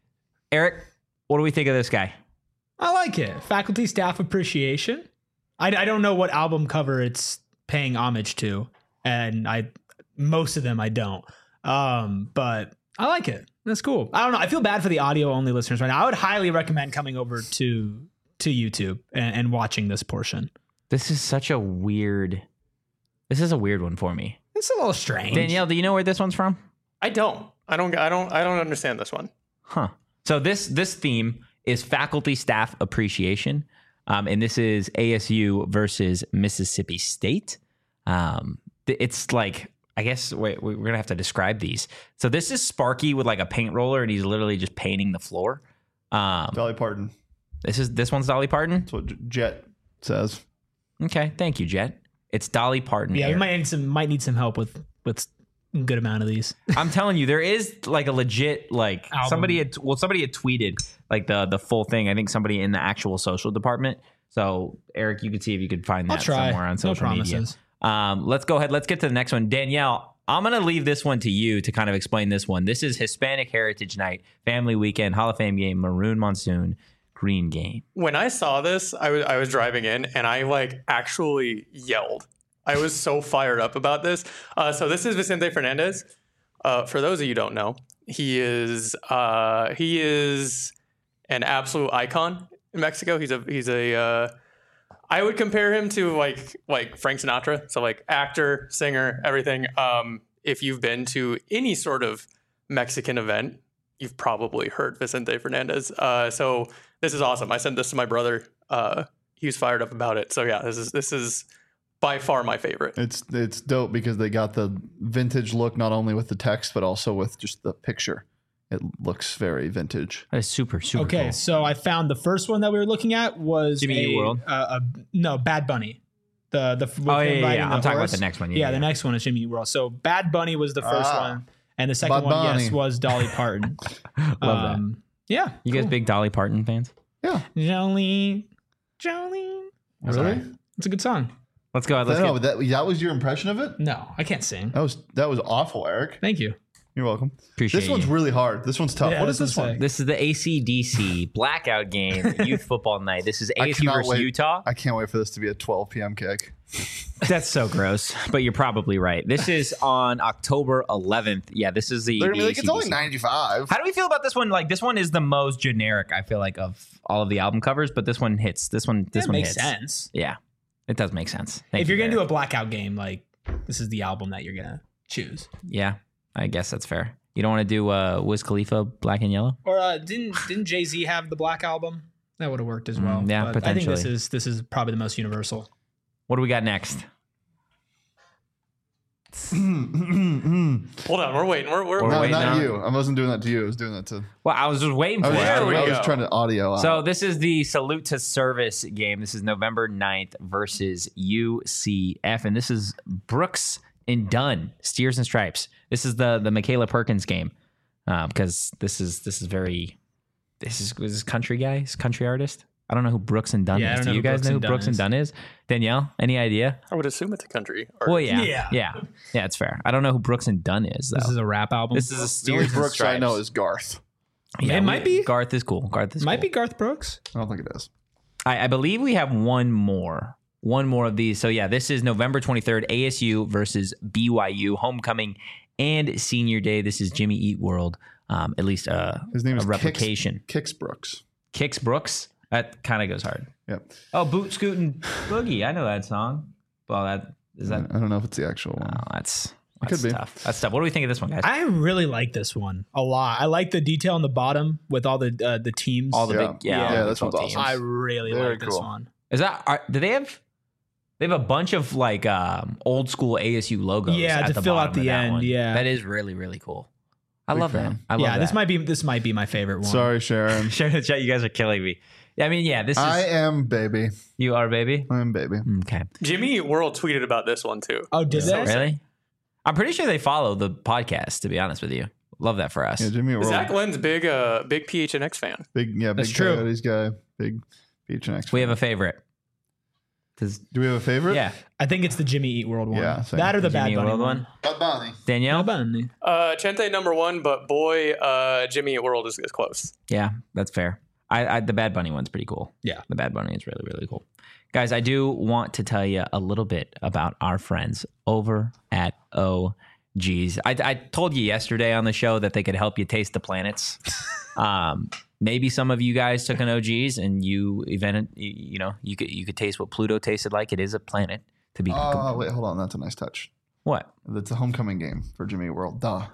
Eric, what do we think of this guy? I like it. Faculty staff appreciation. I, I don't know what album cover it's paying homage to, and I most of them I don't. Um, but I like it. That's cool. I don't know. I feel bad for the audio only listeners right now. I would highly recommend coming over to to YouTube and, and watching this portion. This is such a weird. This is a weird one for me. It's a little strange. Danielle, do you know where this one's from? I don't. I don't. I don't. I don't understand this one. Huh. So this this theme is faculty staff appreciation, um, and this is A S U versus Mississippi State. Um, th- it's like I guess wait, we're gonna have to describe these. So this is Sparky with like a paint roller, and he's literally just painting the floor. Um, Dolly Parton. this is this one's Dolly Parton. That's what J- Jet says. Okay, thank you, Jet. It's Dolly Parton. Yeah, we Eric. might need some might need some help with with a good amount of these. I'm telling you, there is like a legit like Album. somebody had well somebody had tweeted like the the full thing. I think somebody in the actual social department. So Eric, you could see if you could find I'll that try. somewhere on No social media. promises. Um, let's go ahead. Let's get to the next one. Danielle, I'm gonna leave this one to you to kind of explain this one. This is Hispanic Heritage Night, Family Weekend, Hall of Fame game, Maroon Monsoon, Green game. When I saw this, I was I was driving in and I like actually yelled. I was so fired up about this. Uh, so this is Vicente Fernandez. Uh, for those of you who don't know, he is uh, he is an absolute icon in Mexico. He's a he's a uh, I would compare him to like like Frank Sinatra. So like actor, singer, everything. Um, if you've been to any sort of Mexican event, you've probably heard Vicente Fernandez. Uh, so this is awesome. I sent this to my brother. Uh, he was fired up about it. So yeah, this is this is by far my favorite. It's it's dope because they got the vintage look not only with the text but also with just the picture. It looks very vintage. That is super super Okay, cool. so I found the first one that we were looking at was Jimmy a, Eat World? Uh, a no Bad Bunny. The the with Oh, him yeah, yeah, riding yeah. the I'm talking about horse. the next one. Yeah, Yeah, yeah, the yeah. next one is Jimmy Eat World. So Bad Bunny was the first Ah. one, and the second Bad one, yes, Bunny. was Dolly Parton. Love um, Yeah, You guys big Dolly Parton fans? Yeah. Jolene, Jolene. Really? It's a good song. Let's go ahead. Let's no, get, that that was your impression of it? No, I can't sing. That was that was awful, Eric. Thank you. You're welcome. Appreciate This one's you. really hard. This one's tough. Yeah, what is this this one's one? sick. This is the A C D C blackout game, youth football night. This is I A S U cannot versus wait. Utah. I can't wait for this to be a twelve p.m. kick. That's so gross, but you're probably right. This is on October eleventh. Yeah, this is the. They're gonna the be like, it's only A C D C. ninety-five. How do we feel about this one? Like this one is the most generic, I feel like, of all of the album covers, but this one hits. This one, this That one makes hits. sense. Yeah, it does make sense. Thank If you, you're gonna do Eric. a blackout game, like this is the album that you're gonna choose. yeah, I guess that's fair. You don't want to do uh, Wiz Khalifa, Black and Yellow? Or uh, didn't didn't Jay Z have the Black album? That would have worked as well. Mm, yeah, But I think this potentially. is this is probably the most universal. What do we got next? Hold on, we're waiting. We're, we're, We're No, waiting not on- you. I wasn't doing that to you. I was doing that to. Well, I was just waiting for I was, it. There I was we I waiting- was go. trying to audio out. So this is the Salute to Service game. This is November ninth versus U C F, and this is Brooks and Dunn, Steers and Stripes. This is the the Michaela Perkins game uh, because this is this is very this is this is country guys, country artist. I don't know who Brooks and Dunn Yeah, I is. don't Do know you who guys Brooks know who and Dunn Brooks and is. Dunn is? Danielle, any idea? I would assume it's a country. Well, yeah, Yeah. yeah, yeah. It's fair. I don't know who Brooks and Dunn is though. This is a rap album. This is a the only Steers and Brooks Stripes. I know is Garth. Yeah, It we- might be. Garth is cool. Garth is Might cool. be Garth Brooks. I don't think it is. I, I believe we have one more. One more of these. So, yeah, this is November twenty-third, A S U versus B Y U, homecoming and senior day. This is Jimmy Eat World, um, at least uh, His name a is replication. Kix, Kix Brooks. Kicks Brooks. That kind of goes hard. Yep. Oh, Boot Scootin' Boogie. I know that song. Well, that is that. I don't know if it's the actual one. Oh, that's It that's could be. tough. That's tough. What do we think of this one, guys? I really like this one a lot. I like the detail on the bottom with all the uh, the teams. all the Yeah. big, yeah, Yeah, all the this big one's teams. awesome. I really Very like this cool. one. Is that? Are, do they have? They have a bunch of like um, old school A S U logos. Yeah, at to the fill out bottom of the that end, one. yeah. that is really really cool. I Big love that. fan. I love Yeah, that. this might be this might be my favorite one. Sorry, Sharon. Share in the chat. You guys are killing me. Yeah, I mean, yeah, this is I am baby. you are baby. I am baby. Okay, Jimmy Eat World tweeted about this one too. Oh, did So they? really? I'm pretty sure they follow the podcast. To be honest with you, love that for us. Yeah, Jimmy World. Zach Lynn's big, uh, big P H N X fan. Big, yeah, That's big true. Coyotes guy. Big Beach and X. We have a favorite. 'Cause- Do we have a favorite? yeah, I think it's the Jimmy Eat World one. Yeah, same. that or the Jimmy Bad Eat Bunny World one. one. Bad Bunny. Danielle. Bad Bunny. Uh, Chente number one, but boy, uh, Jimmy Eat World is, is close. Yeah, that's fair. I, I the Bad Bunny one's pretty cool. Yeah. The Bad Bunny is really, really cool. Guys, I do want to tell you a little bit about our friends over at O G's. I, I told you yesterday on the show that they could help you taste the planets. um, maybe some of you guys took an O G's and you even you know you could you could taste what Pluto tasted like. It is a planet to be. Oh, wait, hold on. That's a nice touch. What? That's a homecoming game for Jimmy World. Duh.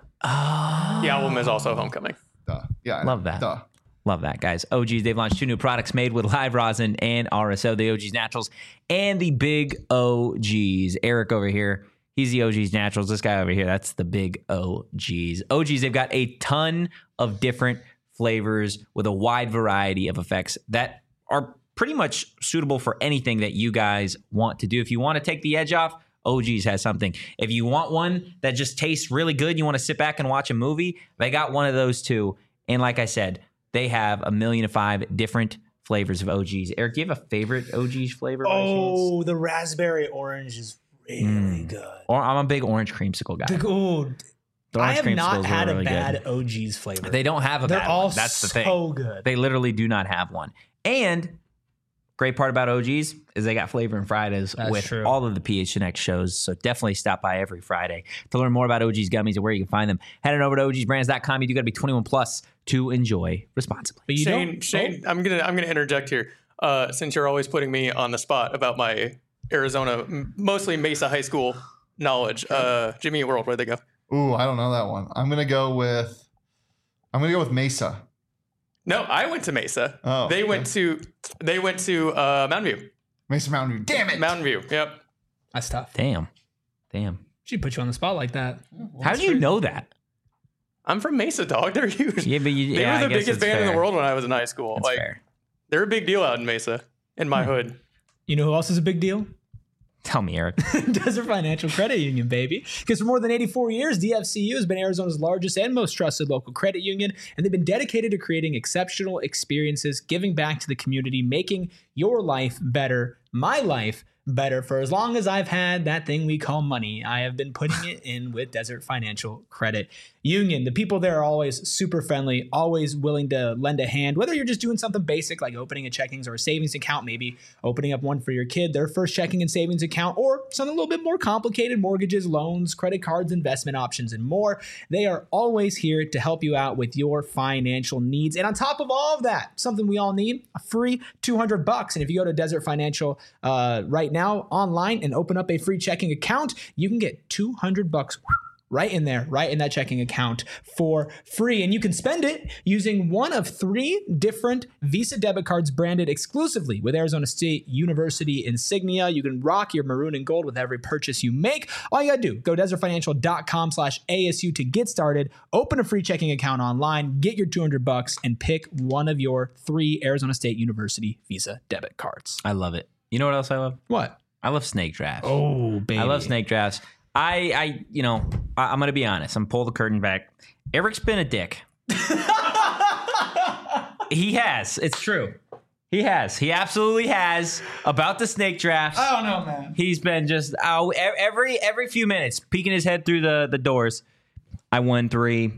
Oh, The album is also Homecoming. Duh. Yeah. I Love know. that. Duh. Love that, guys. O G's, they've launched two new products made with live rosin and R S O, the O G's Naturals and the Big O G's. Eric over here, he's the O G's Naturals. This guy over here, that's the Big O G's. O G's, they've got a ton of different flavors with a wide variety of effects that are pretty much suitable for anything that you guys want to do. If you want to take the edge off, O G's has something. If you want one that just tastes really good, you want to sit back and watch a movie, they got one of those too. And like I said, they have a million and five different flavors of O G's. Eric, do you have a favorite O G's flavor? by chance? Oh, the raspberry orange is really Mm. good. Or I'm a big orange creamsicle guy. The, oh, The I orange have creamsicles not are had really a bad good. O G's flavor. They don't have a They're bad all one. That's the thing. so good. They literally do not have one. And great part about O G's is they got flavor and Fridays That's with true. all of the P H N X shows. So definitely stop by every Friday to learn more about O G's gummies and where you can find them. Head on over to O Gs brands dot com. You do got to be twenty-one plus to enjoy responsibly. but you Shane, don't. Shane, I'm gonna I'm gonna interject here. Uh, since you're always putting me on the spot about my Arizona, m- mostly Mesa High School knowledge. Uh, Jimmy Eat World, where'd they go? Ooh, I don't know that one. I'm gonna go with. I'm gonna go with Mesa. No, I went to Mesa. Oh, they okay. went to they went to uh, Mountain View. Mesa Mountain View. Damn it. Mountain View. Yep. That's tough. Damn. Damn. She put you on the spot like that. How do you know that? I'm from Mesa, dog. They're huge. Yeah, but you, They yeah, were I the guess biggest it's band in fair. the world when I was in high school. That's like fair. they're a big deal out in Mesa, in my hood. You know who else is a big deal? Tell me, Eric. Desert Financial Credit Union, baby. Because for more than eighty-four years, D F C U has been Arizona's largest and most trusted local credit union, and they've been dedicated to creating exceptional experiences, giving back to the community, making your life better, my life better. For as long as I've had that thing we call money, I have been putting it in with Desert Financial Credit Union. The people there are always super friendly, always willing to lend a hand, whether you're just doing something basic like opening a checkings or a savings account, maybe opening up one for your kid, their first checking and savings account, or something a little bit more complicated, mortgages, loans, credit cards, investment options, and more. They are always here to help you out with your financial needs. And on top of all of that, something we all need, a free two hundred bucks. And if you go to Desert Financial uh, right now online and open up a free checking account, you can get two hundred bucks right in there, right in that checking account for free. And you can spend it using one of three different Visa debit cards branded exclusively with Arizona State University insignia. You can rock your maroon and gold with every purchase you make. All you gotta do, go desertfinancial.com slash ASU to get started, open a free checking account online, get your two hundred bucks, and pick one of your three Arizona State University Visa debit cards. I love it. You know what else I love? What? I love snake drafts. Oh, baby. I love snake drafts. I, I, you know, I, I'm gonna be honest. I'm pull the curtain back. Eric's been a dick. He has. It's true. He has. He absolutely has. About the snake drafts. I don't know, man. He's been just oh, every every few minutes peeking his head through the the doors. I won three.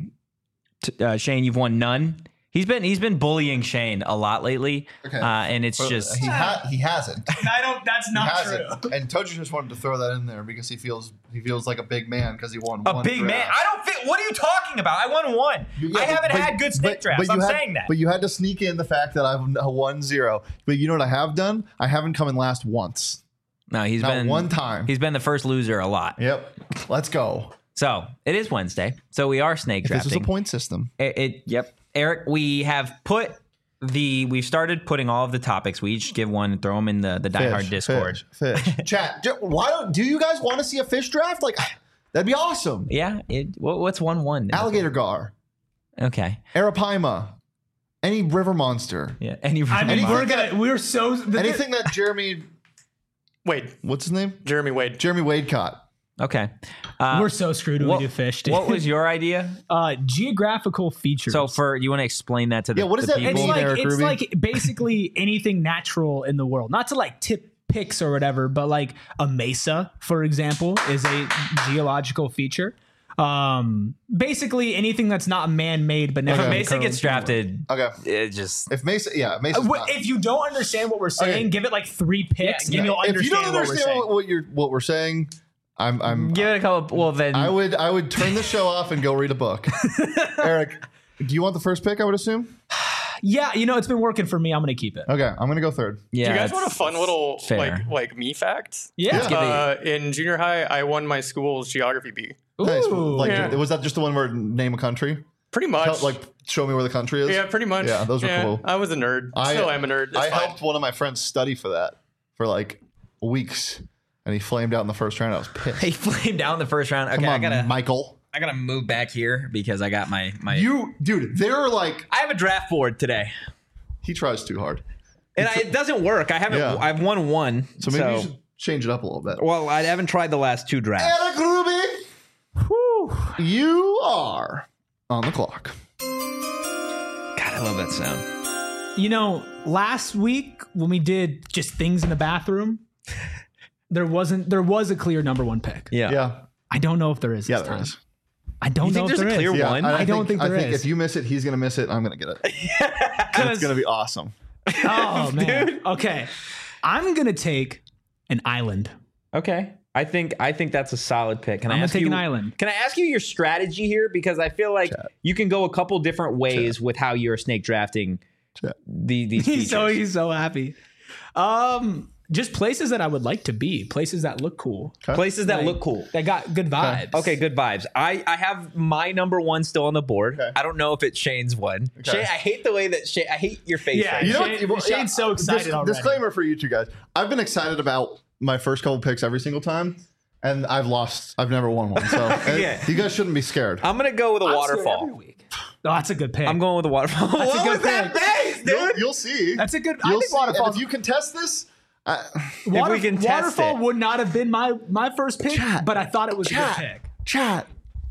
T- uh, Shane, you've won none. He's been he's been bullying Shane a lot lately, Okay. uh, and it's But just he ha- he hasn't. I don't. That's He not hasn't. And Toji just wanted to throw that in there because he feels he feels like a big man because he won a one big draft. man. I don't think. What are you talking about? I won one. Yeah, I haven't but- had good snake but- drafts. but I'm you had- saying that. But you had to sneak in the fact that I've won zero. But you know what I have done? I haven't come in last once. No, he's Not been one time. He's been the first loser a lot. Yep. Let's go. So it is Wednesday. So we are snake If this was a drafting. point system. It, it yep. Eric, we have put the we've started putting all of the topics. We each give one and throw them in the the Die Hard Discord. Fish. fish. Chat. j- Why don't do you guys want to see a fish draft? Like that'd be awesome. Yeah. It, what, what's one one? Alligator gar, Okay. arapaima, any river monster, Yeah. Any. I mean, Anything we're that- gonna. We're so. The, anything that Jeremy, Wade, what's his name? Jeremy Wade. Jeremy Wade caught. Okay. Uh, We're so screwed when what, we do fish. Dude. what was your idea? uh, geographical features? So for you want to explain that to the Yeah, what does the that people? it's mean, like Eric it's Ruby? like basically anything natural in the world. Not to like tip picks or whatever, but like a mesa, for example, is a geological feature. Um, basically anything that's not man-made, but If never a Mesa gets drafted, Okay. it just If Mesa, yeah, Mesa's Uh, not. If you don't understand what we're saying, Okay. give it like three picks, Yeah, and you'll if understand, you don't what we're understand saying. what, what you're what we're saying, I'm I'm give it a couple. Well, then I would I would turn the show off and go read a book. Eric, do you want the first pick? I would assume. Yeah, you know it's been working for me. I'm gonna keep it. Okay, I'm gonna go third. yeah. Do you guys it's want a fun little fair. like like me fact? Yeah. Let's give it- Uh, in junior high, I won my school's geography bee. Nice. Ooh. Like, Yeah. was that just the one where name a country? Pretty much. Tell, like, show me where the country is. yeah, pretty much. Yeah, those were Yeah, cool. I was a nerd. I- Still am a nerd. It's I fine. helped one of my friends study for that for like weeks, and he flamed out in the first round. I was pissed. He flamed down the first round. Okay, Come on, I gotta Michael. I gotta move back here because I got my my. You, dude, they're like I have a draft board today, he tries too hard. and I, it doesn't work. I haven't. Yeah. I've won one. So maybe you should change it up a little bit. Well, I haven't tried the last two drafts. Eric Ruby, you are on the clock. God, I love that sound. You know, last week when we did just things in the bathroom, there wasn't there was a clear number one pick. Yeah. Yeah, I don't know if there is. yeah, this there time. is. I don't You know think if there's there a clear is. Yeah, one? I don't think I there think is. if you miss it, he's gonna miss it. I'm gonna get it. And it's gonna be awesome. Oh man. Okay. I'm gonna take an island. Okay. I think I think that's a solid pick. Can I'm I gonna ask take you an island. Can I ask you your strategy here because I feel like you can go a couple different ways with how you're snake drafting Chat. the, these He's features. so he's so happy. Um, just places that I would like to be, places that look cool, Places that Like, look cool. that got good vibes. Okay, good vibes. I, I have my number one still on the board. Okay. I don't know if it's Shane's one. Okay. Shane, I hate the way that Shane. I hate your face. Yeah, right You now. know Shane- what? Shane's so excited dis- already. Disclaimer for you two guys. I've been excited about my first couple picks every single time, and I've lost. I've never won one. So uh, Yeah. you guys shouldn't be scared. I'm gonna go with a I'm scared every waterfall. week. Oh, that's a good pick. I'm going with a waterfall. That's a What good was that pick. face, You'll, dude? you'll see. That's a good. I You'll think see. And waterfall. if you contest this, I, Water, we can test waterfall it. would not have been my my first pick, Chat. but I thought it was a Chat. good pick. chat.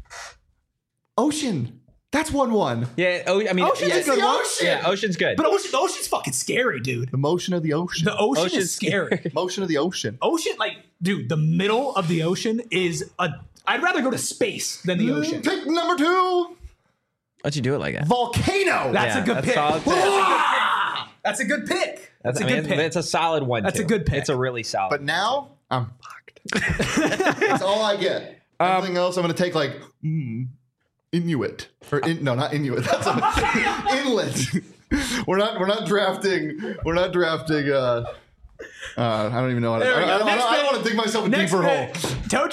Ocean. That's one one. Yeah. Oh, I mean, Ocean's yeah, a good the one. ocean. Yeah, ocean's good. But ocean, the ocean's fucking scary, dude. The motion of the ocean. The ocean Ocean's is scary. motion of the ocean. Ocean, like, dude, the middle of the ocean is a. I'd rather go to space than the ocean. Pick number two. Why'd you do it like that? Volcano. That's Yeah, a good that's pick. solid pick. That's a good pick. That's, I a mean, good pick. It's a solid one. That's too. a good pick. It's a really solid. But now I'm fucked. That's all I get. Everything else, I'm gonna take like mm, Inuit or in, no, not Inuit. That's a, inlet. we're not. We're not drafting. We're not drafting. Uh, uh, I don't even know how to. There we I, go. I, don't- I Next don't, I don't pick. want to dig myself a Next deeper pick. hole. Toe tree.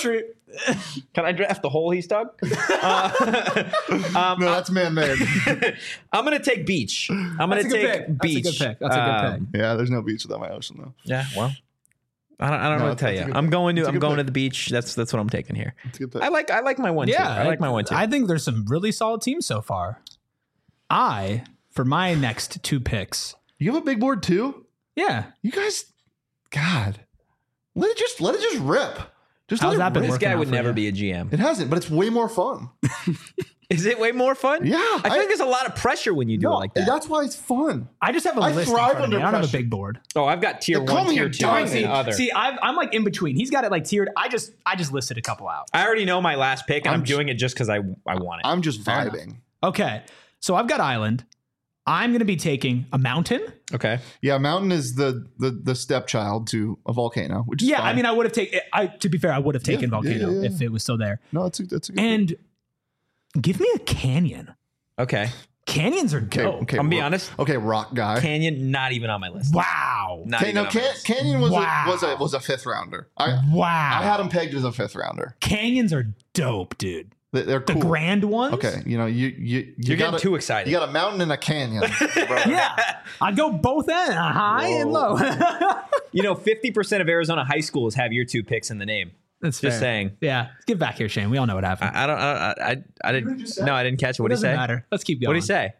Can I draft the hole he stuck? Uh, um, No, that's man-made. I'm gonna take beach. I'm gonna That's a good take pick. beach. That's a good pick. That's a good Um, pick. Yeah, there's no beach without my ocean though. Yeah, well, I don't, I don't No, know what to tell that's a you. good I'm pick. going to That's a I'm good going to pick. the beach. That's that's what I'm taking here. It's a good pick. I like I like my one. Yeah, two. I like my one two. I think there's some really solid teams so far. I, for my next two picks, You have a big board too? yeah. You guys, God, let it just let it just rip. Just How's let that it been rip. this working guy out would for never you? be a G M. It hasn't, but it's way more fun. Is it way more fun? Yeah, I feel I- like there's a lot of pressure when you do No, it like that. that's why it's fun. I just have a I list in thrive front of me. under I don't have a pressure. big board. Oh, I've got tier They call one, me tier a two, diamond. and other. See, I've, I'm like in between. He's got it like tiered. I just I just listed a couple out. I already know my last pick, and I'm, I'm j- doing it just because I I want it. I'm just Fair enough. vibing. Okay, so I've got island. I'm going to be taking a mountain. Okay. Yeah, mountain is the the the stepchild to a volcano, which is Yeah, fine. I mean, I would have taken. I to be fair, I would have taken Yeah, volcano yeah, yeah, if it was still there. no, that's a, that's a good. And give me a canyon. Okay. Canyons are okay, dope. okay, I'm being rock- honest. Okay, rock guy. Canyon, not even on my list. Wow. Not Okay, even no, on my can, list. Canyon was Wow. a, was a was a fifth rounder. I Wow. I had him pegged as a fifth rounder. Canyons are dope, dude. They- They're The cool. grand ones. Okay, you know you you you You're got getting a, too excited. You got a mountain and a canyon. bro. Yeah, I'd go both ends, high and low. You know, fifty percent of Arizona high schools have your two picks in the name. That's Just fair. saying. Yeah, get back here, Shane. We all know what happened. I, I don't. I, I, I didn't. just said? No, I didn't catch it. What it did he doesn't say? matter. Let's keep going. What did he say?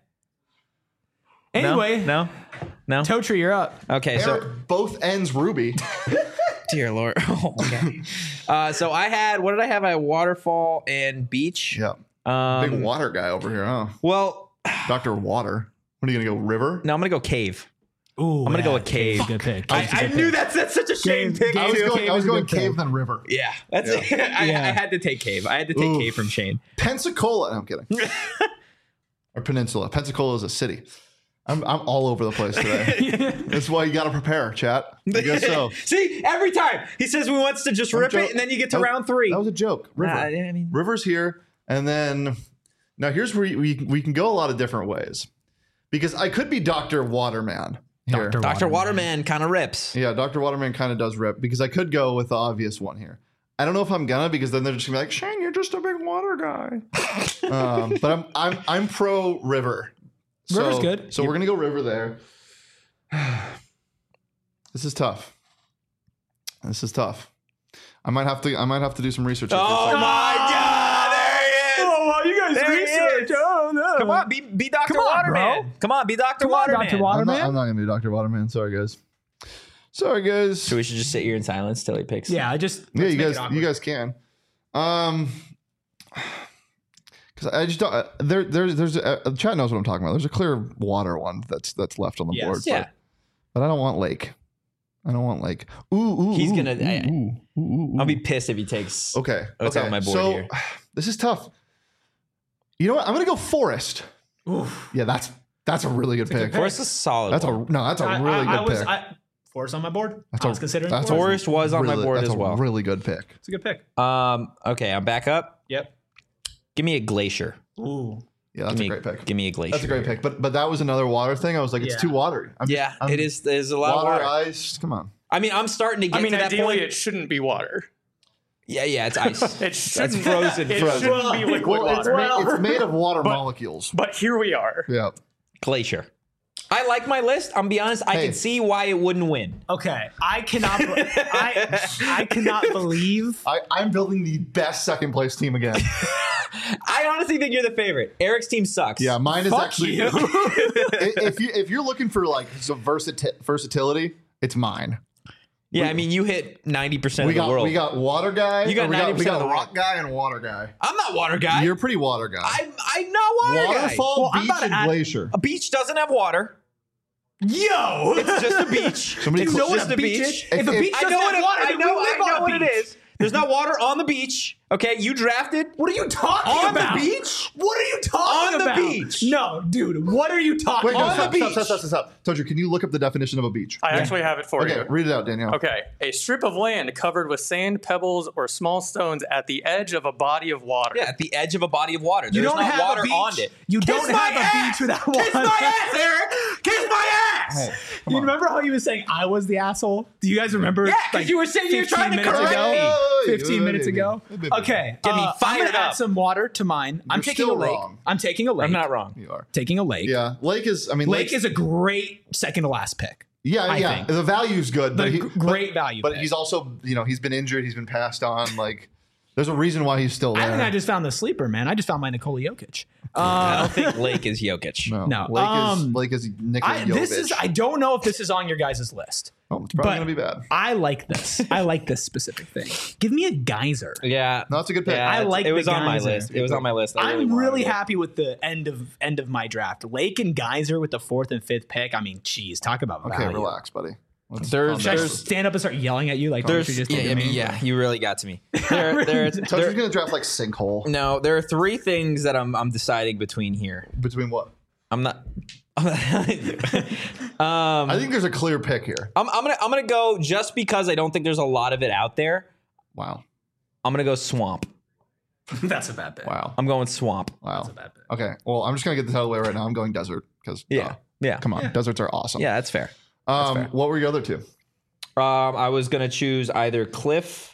Anyway, No. No. no? Toe Tree, you're up. Okay. So, Eric, both ends ruby. dear Lord. Oh, okay. uh, so I had. What did I have? I had waterfall and beach. Yeah, Um, big water guy over here, huh? well, Doctor Water. What are you gonna go river? no, I'm gonna go cave. Ooh, I'm gonna go with cave. Good pick. I, I knew that's that's such a shame Cave- pick. Cave- I was too. going, Cave I was is a going good pick. cave then river. Yeah, that's it. I, Yeah. I had to take cave. I had to take Oof. cave from Shane. Pensacola. No, I'm kidding. Or Peninsula. Pensacola is a city. I'm I'm all over the place today. That's why you got to prepare, chat. I guess so. See, every time he says he wants to just I'm rip jo- it, and then you get to that was- round three. That was a joke. River. Nah, I mean, River's here, and then now here's where we we can go a lot of different ways, because I could be Doctor Waterman here. Doctor Doctor Waterman. Waterman kind of rips. Yeah, Doctor Waterman kind of does rip, because I could go with the obvious one here. I don't know if I'm gonna, because then they're just gonna be like, Shane, you're just a big water guy. um, but I'm I'm I'm pro River. So, River's good. So we're gonna go River there. This is tough. This is tough. I might have to I might have to do some research. after Oh this. my God! There he is. Oh, wow, you guys There he research. is. Oh, no. Come on, be be Doctor Come on, Waterman. bro. Come on, be Doctor Come on, Waterman. Doctor I'm Waterman. not, I'm not gonna do Doctor Waterman. Sorry guys. Sorry guys. So we should just sit here in silence till he picks. Yeah, I just. Yeah, let's you make guys, it awkward. you guys can. Um, because I just don't. Uh, there, there's, there's. Uh, the chat knows what I'm talking about. There's a clear water one that's that's left on the Yes. board. Yeah. But, but I don't want lake. I don't want lake. Ooh, ooh. He's ooh, gonna- Ooh, I- ooh, ooh, ooh, I'll ooh. be pissed if he takes. Okay. What's okay. on my board so, here? This is tough. You know what? I'm gonna go forest. Oof. Yeah, that's that's a really good a good pick. pick. Forrest is a solid. That's a one. no. That's a I- really I, I good was, pick. I, Forest on my board. That's I a- was considering that's a- Forest. Forest was on my Really- board that's as a well. really good pick. It's a good pick. Um. Okay, I'm back up. Yep. Give me a glacier. Ooh. Yeah, that's give a me, great pick. Give me a glacier. That's a great pick. But but that was another water thing. I was like, it's Yeah. too watery. I'm Yeah, I'm- it is. There's a lot Water, of water. ice. Come on. I mean, I'm starting to get I mean, to that ideally, point. it shouldn't be water. Yeah, yeah, it's ice. It That's shouldn't, frozen. It frozen. shouldn't be liquid Well, it's, water. made, it's made of water But- molecules. But here we are. Yeah. Glacier. I like my list. I'm be honest. I Hey. can see why it wouldn't win. Okay, I cannot. be- I I cannot believe. I, I'm building the best second place team again. I honestly think you're the favorite. Eric's team sucks. Yeah, mine is Fuck actually. you. if you if you're looking for like some versati- versatility, it's mine. Yeah, I mean, you hit ninety percent We of the got world. we got water guy. You got or we got, we ninety percent got of the rock guy and water guy. I'm not water guy. You're pretty water guy. I'm, I'm not water guy. Waterfall, Well, I'm beach, about to and add- glacier. A beach doesn't have water. Yo, It's just a beach. Somebody it's cl- just know what a a beach beach. is? If- If a if- beach I doesn't know what have it, water, I then know, we live I know on a what it beach. is. There's not water on the beach. Okay, you drafted. What are you talking On the about? beach? What are you talking On the about? beach. No, dude. What are you talking Wait, no, on about? the stop, beach. stop, stop, stop, stop. Told you, can you look up the definition of a beach? I actually have it for Okay, you. read it out, Danielle. Okay, a strip of land covered with sand, pebbles, or small stones at the edge of a body of water. Yeah, at the edge of a body of water. You There's don't not have water a beach. on it. You Kiss don't my have a ass! beach without Kiss water. my ass, Eric. Kiss my ass. Hey, You remember how he was saying I was the asshole? Do you guys remember? Yeah, because like, you were saying you were fifteen trying to minutes correct ago? me. Oh, fifteen minutes maybe. ago. Maybe. Okay, Get me uh, I'm fired gonna add up. some water to mine. I'm You're taking a still lake. wrong. I'm taking a lake. I'm not wrong. You are. taking a lake. Yeah, Lake is. I mean, Lake Lake's- is a great second to last pick. Yeah, I yeah. think. The value's good, The but he, g- great but, value But pick. he's also, you know, he's been injured. He's been passed on. Like, there's a reason why he's still there. I think I just found the sleeper, man. I just found my Nikola Jokic. I Uh, don't think Lake is Jokic. no, No, Lake um, is Lake is Nikola I, this is. Jovic. I don't know if this is on your guys' list. Oh, it's probably but- gonna be bad. I like this. I like this specific thing. Give me a geyser. Yeah. No, it's a good pick. Yeah, I it's- like it was the on my Geyser. list. It was on my list. I I'm wanted really it. happy with the end of end of my draft. Lake and Geyser with the fourth and fifth pick. I mean, geez, talk about Okay, value. relax, buddy. Let's There's- calm Should I down. there's- stand up and start yelling at you like There's, you just yeah, did I to mean, me? yeah, you really got to me. There, there, Tucker's there, gonna draft like sinkhole. no, there are three things that I'm I'm deciding between here. Between what? I'm not. um, I think there's a clear pick here. I'm, I'm gonna I'm gonna go just because I don't think there's a lot of it out there. Wow. I'm gonna go swamp. That's a bad pick. Wow. I'm going swamp. Wow. That's a bad pick. Okay. Well, I'm just gonna get this out of the way right now. I'm going desert because Yeah, yeah, come on, deserts are awesome. yeah. That's fair. Um, fair. what were your other two? Um, I was gonna choose either cliff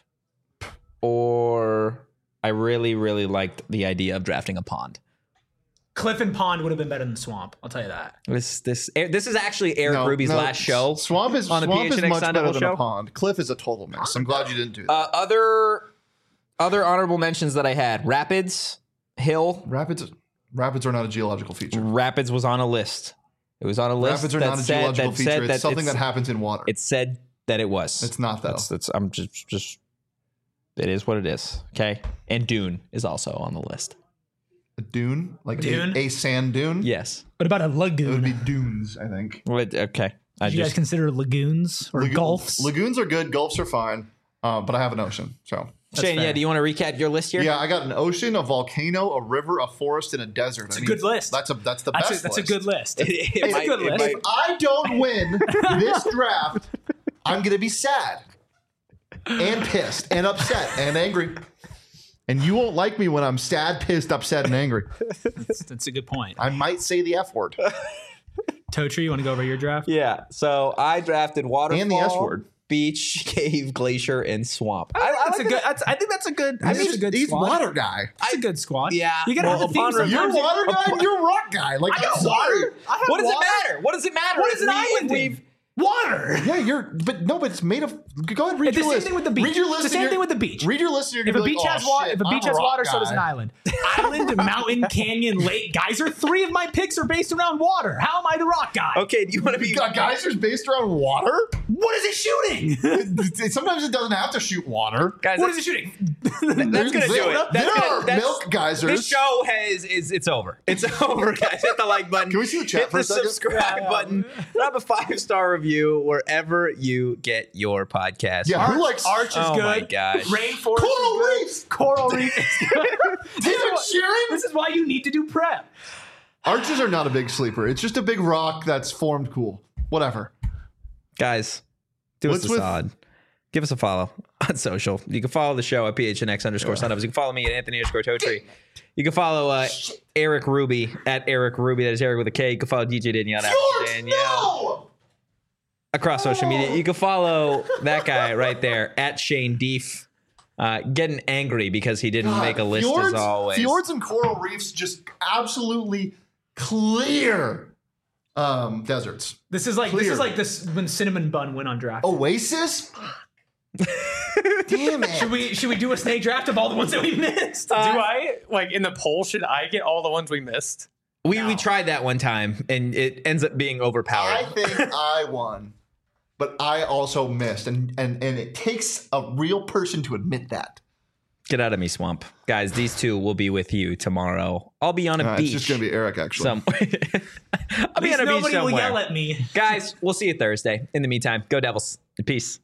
or I really really liked the idea of drafting a pond. Cliff and Pond would have been better than Swamp. I'll tell you that. This this this is actually Eric No, Ruby's no, last show. Swamp is on the Swamp is PHNX much Sun better Devil than show. a pond. Cliff is a total mess. I'm glad you didn't do that. Uh, other other honorable mentions that I had: Rapids, Hill. rapids, rapids are not a geological feature. Rapids was on a list. It was on a list Rapids are that not a said geological that feature. said it's that something it's- that happens in water. It said that it was. It's not though. That's, that's I'm just just. It is what it is. Okay, and Dune is also on the list. a dune, like Dune? A, a sand dune. Yes. What about a It would lagoon? be dunes, I think. Wait, okay. I Do you guys just consider lagoons or Lagoon- gulfs? Lagoons are good. Gulfs are fine. Uh, but I have an ocean. So Shane. fair. Yeah. Do you want to recap your list here? yeah, I got an ocean, a volcano, a river, a forest, and a desert. It's I a mean, good list. That's a that's the That's, best. a, that's a list. good list. It- it It's might- a good it list. might- If I don't win this draft, I'm gonna be sad and pissed and upset and angry. And you won't like me when I'm sad, pissed, upset, and angry. That's, that's a good point. I might say the F word Totri, you want to go over your draft? Yeah. So I drafted waterfall, and the S word. beach, cave, glacier, and swamp. I, I That's like a good. That's, I think that's a good. I He's, think it's a good he's squad. water guy. That's a good squad. Yeah. you gotta Well, have a theme upon review- sometimes. You're water guy and you're rock guy. Like, I got I'm water. sorry. I have What does water. it matter? What does it matter? What is an If we- island? if we've- Water. Yeah, you're, but no, but it's made of. Go ahead, read It's the your same list. thing with the beach. Read your It's list. the and same you're- thing with the beach. Read your list. And you're If gonna a be beach like, has oh, water, shit, if a beach I'm has rock water, so does an guy. island. Island, mountain, canyon, lake, geyser. Three of my picks are based around water. How am I the rock guy? Okay. Do you want to be? You got geysers based around water? What is it shooting? Sometimes it doesn't have to shoot water. Guys, what is it shooting? that's gonna There- do it. There That's are gonna, that's, milk geysers. This show has is it's over. It's over, guys. Hit the like button. Can we see the chat Hit for the a second? subscribe button. Drop a five star review wherever you get your podcast. Yeah, who likes Arch is Oh good. my gosh. Rainforest Coral is good. Reefs? Coral Reef is good. David Sheeran? This is why you need to do prep. Arches are not a big sleeper. It's just a big rock that's formed cool. Whatever. Guys, do What's us a with- solid. Give us a follow on social. You can follow the show at P H N X underscore Sunups. You can follow me at Anthony underscore Totri. You can follow uh, Eric Ruby at Eric Ruby. That is Eric with a K. You can follow D J Danielle at George, Danielle. no! Across social media. You can follow that guy right there at Shane Deef. Uh, getting angry because he didn't make a list fjords, as always. Fjords and coral reefs just absolutely clear um, deserts. This is like this Clear. is like this when Cinnamon Bun went on draft. Oasis? Damn it. Should we should we do a snake draft of all the ones that we missed? Do I like in the poll? Should I get all the ones we missed? we we tried that one time and it ends up being overpowered. I think I won, but I also missed, and, and and it takes a real person to admit that. Get out of me, Swamp. Guys, these two will be with you tomorrow. I'll be on a Uh, beach. it's just gonna be Eric, actually. somewhere. I'll At be least on a beach nobody will somewhere. yell at me. Guys, we'll see you Thursday. In the meantime, go Devils. Peace.